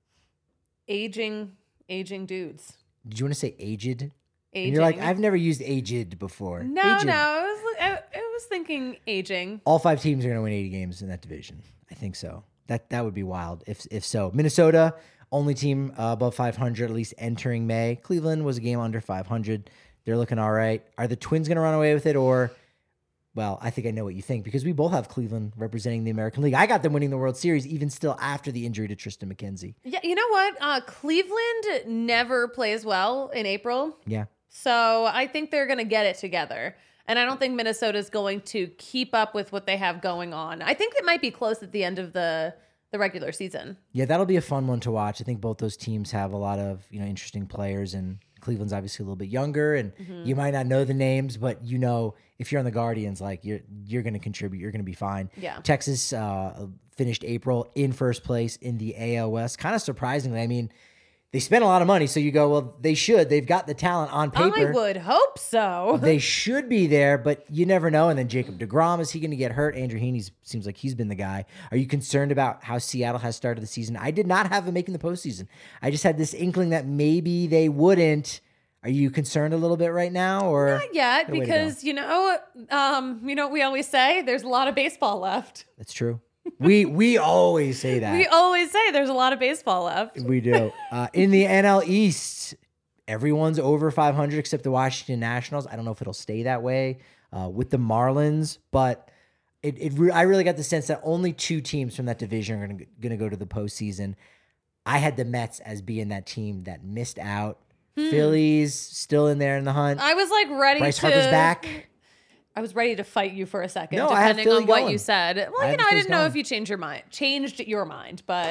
aging, aging dudes. Did you want to say aged? Aging. And you're like, I've never used aged before. no, Aged. no. I was, I, I was thinking aging. All five teams are going to win eighty games in that division. I think so. That that would be wild if if so. Minnesota, only team uh, above five hundred, at least entering May. Cleveland was a game under five hundred. They're looking all right. Are the Twins going to run away with it, or? Well, I think I know what you think because we both have Cleveland representing the American League. I got them winning the World Series even still after the injury to Tristan McKenzie. Yeah, you know what? Uh, Cleveland never plays well in April. Yeah. So I think they're going to get it together. And I don't think Minnesota's going to keep up with what they have going on. I think it might be close at the end of the, the regular season. Yeah, that'll be a fun one to watch. I think both those teams have a lot of, you know, interesting players, and Cleveland's obviously a little bit younger, and Mm-hmm. you might not know the names, but you know if you're on the Guardians, like you're you're going to contribute, you're going to be fine. Yeah. Texas uh, finished April in first place in the A L West. Kind of surprisingly, I mean, they spent a lot of money, so you go, well, they should. They've got the talent on paper. I would hope so. They should be there, but you never know. And then Jacob deGrom, is he going to get hurt? Andrew Heaney seems like he's been the guy. Are you concerned about how Seattle has started the season? I did not have them making the postseason. I just had this inkling that maybe they wouldn't. Are you concerned a little bit right now, or Not yet, the way to go? because, you know, um, you know what we always say? There's a lot of baseball left. That's true. We we always say that. We always say there's a lot of baseball left. We do. Uh, in the N L East, everyone's over five hundred except the Washington Nationals. I don't know if it'll stay that way uh, with the Marlins, but it, it re- I really got the sense that only two teams from that division are going to go to the postseason. I had the Mets as being that team that missed out. Phillies still in there in the hunt. I was like ready Bryce to. Harper's back. I was ready to fight you for a second, No, I have depending Philly on what going. you said. I Well, have you the know, I Phillies didn't know going. if you changed your mind, changed your mind, but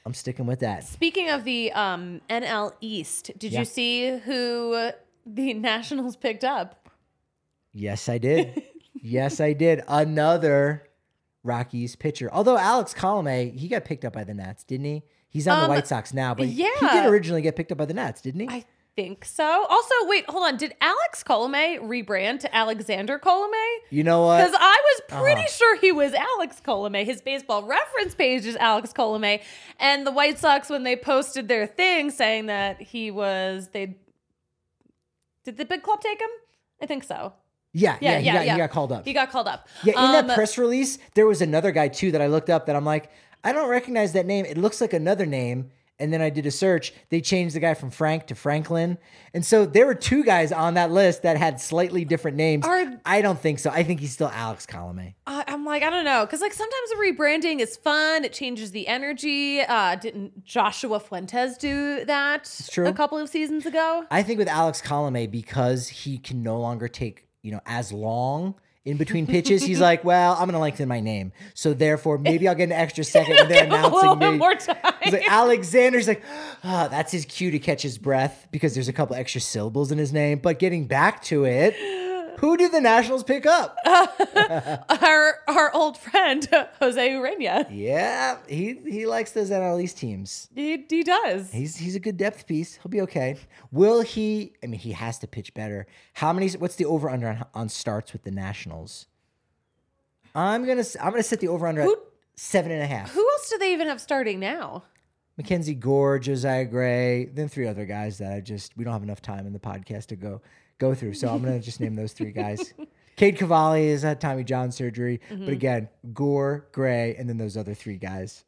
I'm sticking with that. Speaking of the um, N L East, did Yeah. you see who the Nationals picked up? Yes, I did. yes, I did. Another Rockies pitcher. Although Alex Colomé, he got picked up by the Nats, didn't he? He's on Um, the White Sox now, but he yeah. did originally get picked up by the Nats, didn't he? I think so. Also, wait, hold on. Did Alex Colomé rebrand to Alexander Colomé? You know what? Because I was pretty Uh-huh. sure he was Alex Colomé. His baseball reference page is Alex Colomé. And the White Sox, when they posted their thing saying that he was, they did the big club take him? I think so. Yeah, yeah, Yeah, he, yeah, got, yeah. he got called up. He got called up. yeah, in Um, that press release, there was another guy too that I looked up that I'm like, I don't recognize that name. It looks like another name. And then I did a search. They changed the guy from Frank to Franklin. And so there were two guys on that list that had slightly different names. Are- I don't think so. I think he's still Alex Colomé. I- I'm like, I don't know. Because like sometimes the rebranding is fun. It changes the energy. Uh, didn't Joshua Fuentes do that true. a couple of seasons ago? I think with Alex Colomé, because he can no longer take, you know, as long in between pitches, he's like, well, I'm going to lengthen my name. So therefore, maybe I'll get an extra second when they're Give him a little announcing bit me. more time. He's like, Alexander's like, oh, that's his cue to catch his breath because there's a couple extra syllables in his name. But getting back to it, who did the Nationals pick up? our our old friend Jose Urena. Yeah, he he likes those N L East teams. He, he does. He's he's a good depth piece. He'll be okay. Will he? I mean, he has to pitch better. How many? What's the over under on, on starts with the Nationals? I'm gonna I'm gonna set the over under at Who- seven and a half. Who else do they even have starting now? Mackenzie Gore, Josiah Gray, then three other guys that I just we don't have enough time in the podcast to go go through. So I'm gonna just name those three guys. Cade Cavalli has had Tommy John surgery, but again, Gore, Gray, and then those other three guys.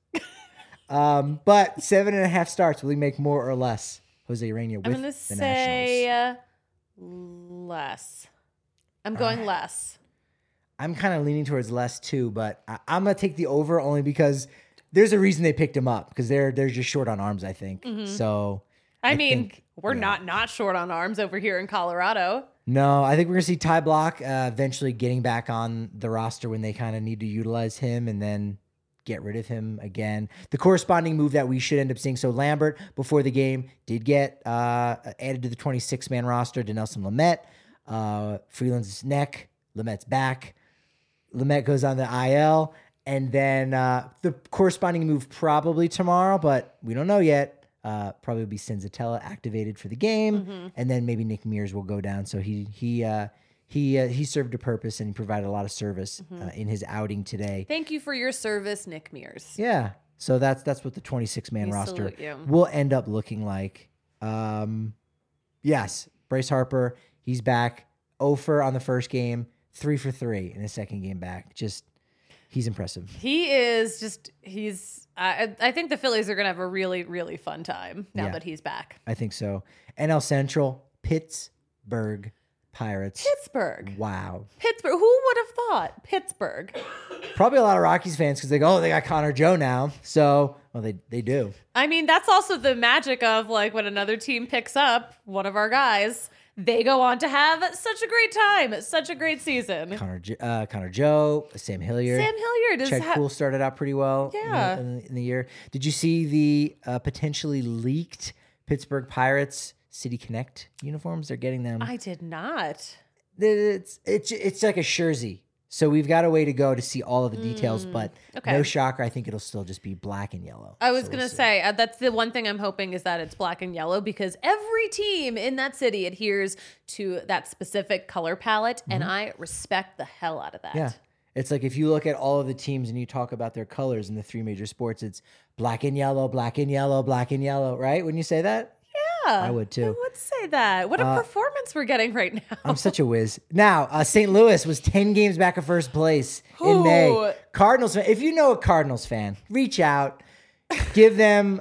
um, but seven and a half starts. Will he make more or less? Jose Urena with I'm gonna the say Nationals. uh, less. I'm going less. I'm kind of leaning towards less too, but I, I'm gonna take the over only because there's a reason they picked him up because they're they're just short on arms, I think. So I, I mean, think- we're yeah. not not short on arms over here in Colorado. no, I think we're gonna see Ty Block uh, eventually getting back on the roster when they kind of need to utilize him, and then get rid of him again. The corresponding move that we should end up seeing. So Lambert before the game did get uh, added to the twenty-six man roster. Denelson Lamet, uh, Freeland's neck, Lamet's back. Lamet goes on the I L, and then uh, the corresponding move probably tomorrow, but we don't know yet. Uh, probably be Senzatella activated for the game, and then maybe Nick Mears will go down. So he he uh, he uh, he served a purpose and he provided a lot of service uh, in his outing today. Thank you for your service, Nick Mears. Yeah, so that's that's what the twenty-six man We roster salute you. will end up looking like. Um, yes, Bryce Harper, he's back. oh for on the first game. Three for three in his second game back. Just, he's impressive. He is just, he's, I, I think the Phillies are going to have a really, really fun time now Yeah. that he's back. I think so. N L Central, Pittsburgh Pirates. Pittsburgh. Wow. Pittsburgh. Who would have thought? Pittsburgh. Probably a lot of Rockies fans because they go, oh, they got Connor Joe now. So, well, they, they do. I mean, that's also the magic of like when another team picks up one of our guys, they go on to have such a great time, such a great season. Connor, Jo- uh, Connor Joe, Sam Hilliard. Sam Hilliard is Chad ha- Poole started out pretty well in the- Yeah. in, the, in the year. Did you see the uh, potentially leaked Pittsburgh Pirates City Connect uniforms? They're getting them. I did not. It's it's it's like a jersey. So we've got a way to go to see all of the details, but okay. no shocker. I think it'll still just be black and yellow. I was So going we'll to see. say uh, that's the one thing I'm hoping is that it's black and yellow because every team in that city adheres to that specific color palette, and I respect the hell out of that. Mm-hmm. Yeah. It's like if you look at all of the teams and you talk about their colors in the three major sports, it's black and yellow, black and yellow, black and yellow, right? Wouldn't you say that? Yeah, I would too. I would say that. What a performance we're getting right now. I'm such a whiz. Now, uh, Saint Louis was ten games back of first place in May. Ooh. Cardinals fan, if you know a Cardinals fan, reach out, give them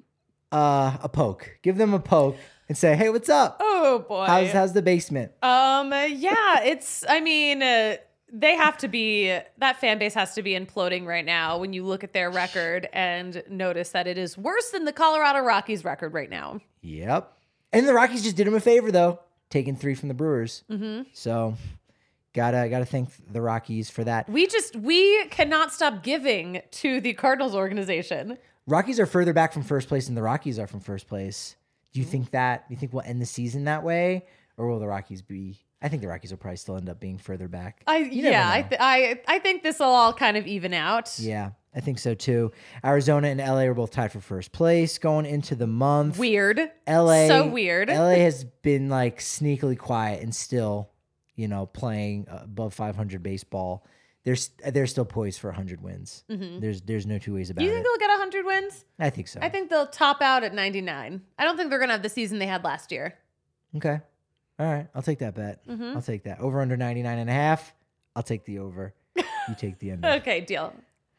uh, a poke. Give them a poke and say, hey, what's up? Oh boy. How's, how's the basement? Um. Yeah. It's. I mean, uh, they have to be. That fan base has to be imploding right now. When you look at their record and notice that it is worse than the Colorado Rockies record right now. Yep. And the Rockies just did him a favor, though, taking three from the Brewers. Mm-hmm. So gotta gotta thank the Rockies for that. We just we cannot stop giving to the Cardinals organization. Rockies are further back from first place than the Rockies are from first place. Do you think that? Do you think we'll end the season that way, or will the Rockies be? I think the Rockies will probably still end up being further back. I You never yeah, I, know. th- I I think this will all kind of even out. Yeah, I think so too. Arizona and L A are both tied for first place going into the month. Weird. L A So weird. L A has been like sneakily quiet and still, you know, playing above five hundred baseball. They're st- they're still poised for one hundred wins. There's there's no two ways about Do you it. think they'll get one hundred wins? I think so. I think they'll top out at ninety-nine. I don't think they're going to have the season they had last year. Okay. All right. I'll take that bet. Mm-hmm. I'll take that. Over under ninety-nine and a half. I'll take the over. You take the under. Okay, deal.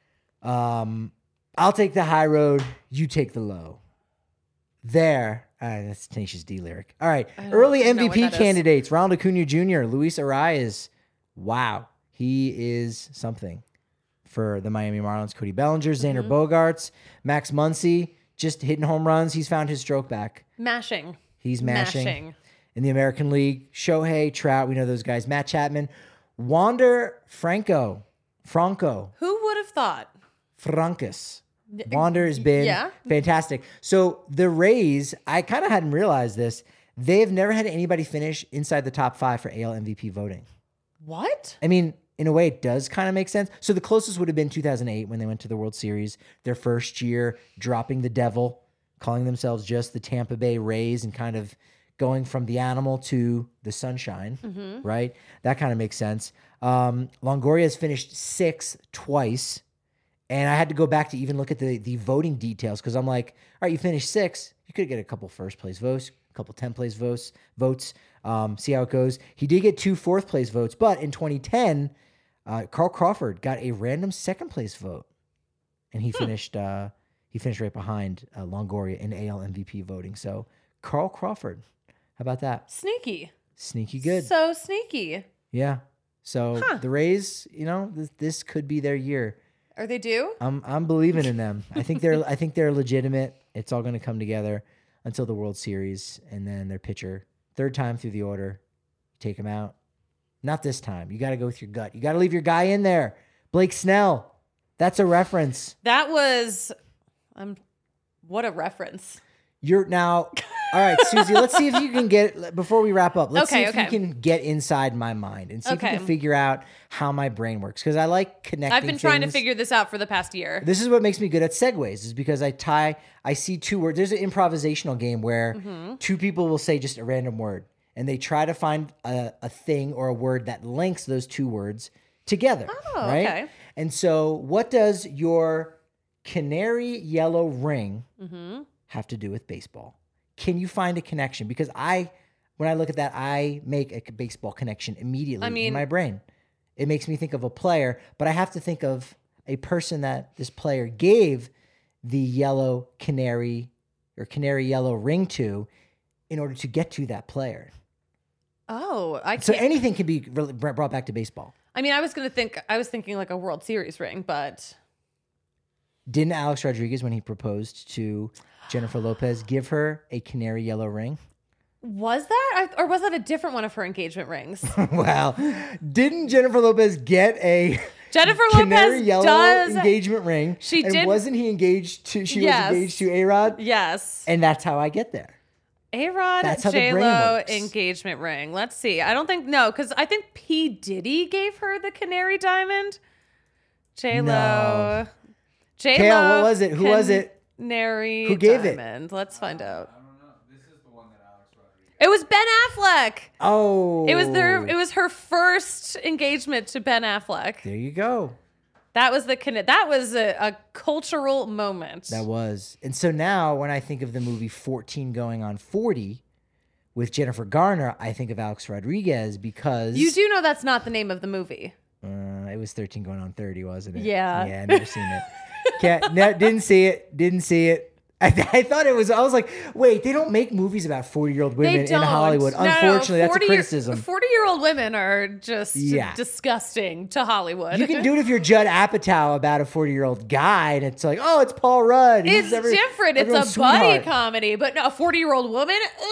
Um, I'll take the high road. You take the low. There. Uh, that's Tenacious D lyric. All right. don't Early know M V what P that is. candidates. Ronald Acuna Junior Luis Arias. Wow. He is something for the Miami Marlins. Cody Bellinger, Xander Mm-hmm. Bogaerts, Max Muncy, just hitting home runs. He's found his stroke back. Mashing. He's mashing. Mashing. In the American League, Shohei, Trout, we know those guys. Matt Chapman, Wander Franco, Franco, Who would have thought? Francus. Wander has been yeah. fantastic. So the Rays, I kind of hadn't realized this. They've never had anybody finish inside the top five for A L M V P voting. What? I mean, in a way, it does kind of make sense. So the closest would have been two thousand eight when they went to the World Series, their first year, dropping the devil, calling themselves just the Tampa Bay Rays and kind of going from the animal to the sunshine, right? That kind of makes sense. Um, Longoria has finished sixth twice. And I had to go back to even look at the, the voting details because I'm like, all right, you finished sixth. You could get a couple first place votes, a couple tenth place votes, votes. Um, see how it goes. He did get two fourth place votes, but in twenty ten, uh, Carl Crawford got a random second place vote, and he finished uh, he finished right behind uh, Longoria in A L M V P voting. So Carl Crawford, how about that? Sneaky. Sneaky good, So sneaky. yeah. So Huh. the Rays, you know, this, this could be their year. Are they due? I'm I'm believing in them. I think they're I think they're legitimate. It's all going to come together until the World Series, and then their pitcher, third time through the order, take him out. Not this time. You got to go with your gut. You got to leave your guy in there. Blake Snell. That's a reference. That was um what a reference. You're now. All right, Susie. Let's see if you can get before we wrap up. Let's Okay, see if okay. you can get inside my mind and see if you Okay. can figure out how my brain works because I like connecting. I've been trying to things. figure this out for the past year. This is what makes me good at segues, is because I tie, I see two words. There's an improvisational game where Mm-hmm. two people will say just a random word, and they try to find a, a thing or a word that links those two words together. Oh, right? okay. And so, what does your canary yellow ring Mm-hmm. have to do with baseball? Can you find a connection? Because I, when I look at that, I make a baseball connection immediately I mean- in my brain. It makes me think of a player, but I have to think of a person that this player gave the yellow canary or canary yellow ring to in order to get to that player. Oh, I So can't. anything can be really br- brought back to baseball. I mean, I was gonna think. I was thinking like a World Series ring, but Didn't Alex Rodriguez, when he proposed to Jennifer Lopez, give her a canary yellow ring? was that I, or was that a different one of her engagement rings? Well, didn't Jennifer Lopez get a Jennifer canary Lopez yellow does. engagement ring? She and did- wasn't he engaged to? She Yes. was engaged to A Rod, Yes, and that's how I get there. A Rod That's how the J brain Lo works. engagement ring. Let's see. I don't think no, because I think P Diddy gave her the canary diamond. J Lo. No. J Kale, Lo. what was it? Who was it? Canary. Who gave it? diamond. Let's find out. It was Ben Affleck. Oh, It was their. It was her first engagement to Ben Affleck. There you go. That was the conne- That was a, a cultural moment. That was. And so now when I think of the movie fourteen going on forty with Jennifer Garner, I think of Alex Rodriguez because You do know that's not the name of the movie. Uh, it was thirteen going on thirty, wasn't it? Yeah. Yeah, never seen it. Can't, ne- didn't see it. Didn't see it. I, th- I thought it was, I was like, wait, they don't make movies about forty-year-old women They in don't. Hollywood. No, no, no. Unfortunately, that's a forty criticism. forty-year-old women are just Yeah. disgusting to Hollywood. You can do it if you're Judd Apatow about a forty-year-old guy, and it's like, oh, it's Paul Rudd. He's It's every- different. It's a everyone's buddy sweetheart. comedy, but no, a forty-year-old woman, ugh,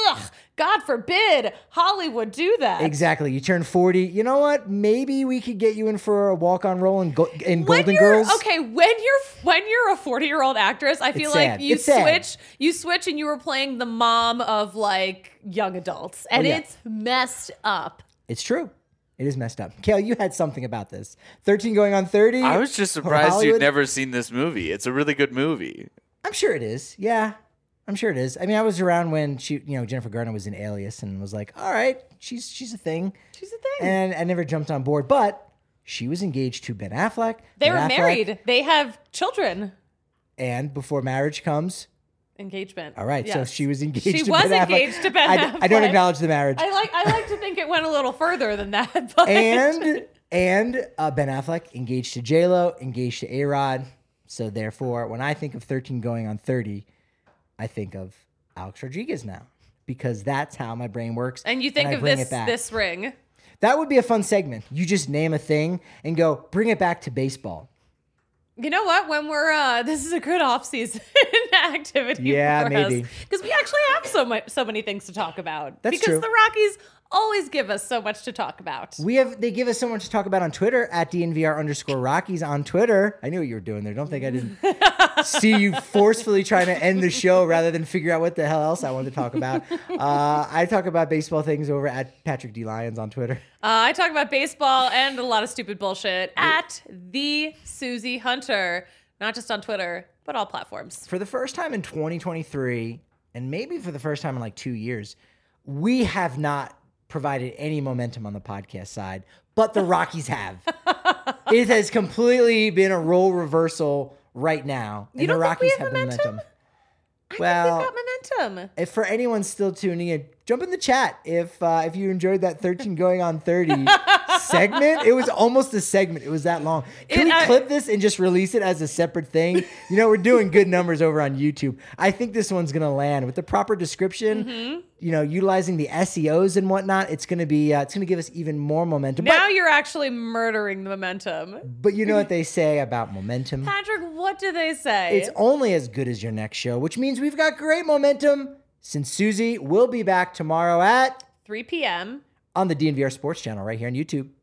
God forbid Hollywood do that. Exactly. You turn forty. You know what? Maybe we could get you in for a walk-on role in, go- in When Golden you're- Girls. Okay, when you're when you're a forty-year-old actress, I feel It's like sad. you It's sad. switch, you switch, and you were playing the mom of like young adults, and Oh, yeah. it's messed up. It's true. It is messed up. Kale, you had something about this. thirteen going on thirty. I was just or surprised you'd Hollywood? never seen this movie. It's a really good movie. I'm sure it is. Yeah. I'm sure it is. I mean, I was around when she, you know, Jennifer Garner was in Alias and was like, all right, she's she's a thing. She's a thing. And I never jumped on board, but she was engaged to Ben Affleck. They Ben were Affleck, married. They have children. And before marriage comes, Engagement. all right, so Yes. she was engaged She to was Ben Affleck. engaged to Ben I, d- I don't Affleck. acknowledge the marriage. I like I like to think it went a little further than that. But and and uh, Ben Affleck engaged to J-Lo, engaged to A-Rod. So therefore, when I think of thirteen going on thirty, I think of Alex Rodriguez now because that's how my brain works. and you think I of bring this it back. this ring. That would be a fun segment. You just name a thing and go bring it back to baseball. You know what? When we're uh this is a good off-season activity Yeah, for maybe. us. Because we actually have so much so many things to talk about. That's because true. the Rockies always give us so much to talk about. We have they give us so much to talk about on Twitter at D N V R underscore Rockies on Twitter. I knew what you were doing there. Don't think I didn't see you forcefully trying to end the show rather than figure out what the hell else I wanted to talk about. Uh, I talk about baseball things over at Patrick D Lyons on Twitter. Uh, I talk about baseball and a lot of stupid bullshit at the Susie Hunter, not just on Twitter, but all platforms. For the first time in twenty twenty-three, and maybe for the first time in like two years, we have not provided any momentum on the podcast side, but the Rockies have. It has completely been a role reversal right now, and You the don't think Rockies we have the momentum? I Well, think they've got momentum. if for anyone still tuning in, jump in the chat if uh, if you enjoyed that thirteen going on thirty segment. It was almost a segment. It was that long. Can It, we uh, clip this and just release it as a separate thing? You know, we're doing good numbers over on YouTube. I think this one's gonna land with the proper description. Mm-hmm. You know, utilizing the S E Os and whatnot. It's gonna be. Uh, it's gonna give us even more momentum. Now But, you're actually murdering the momentum. but you know what they say about momentum. Patrick, what do they say? It's only as good as your next show, which means we've got great momentum. Since Susie will be back tomorrow at three p.m. on the D N V R Sports Channel right here on YouTube.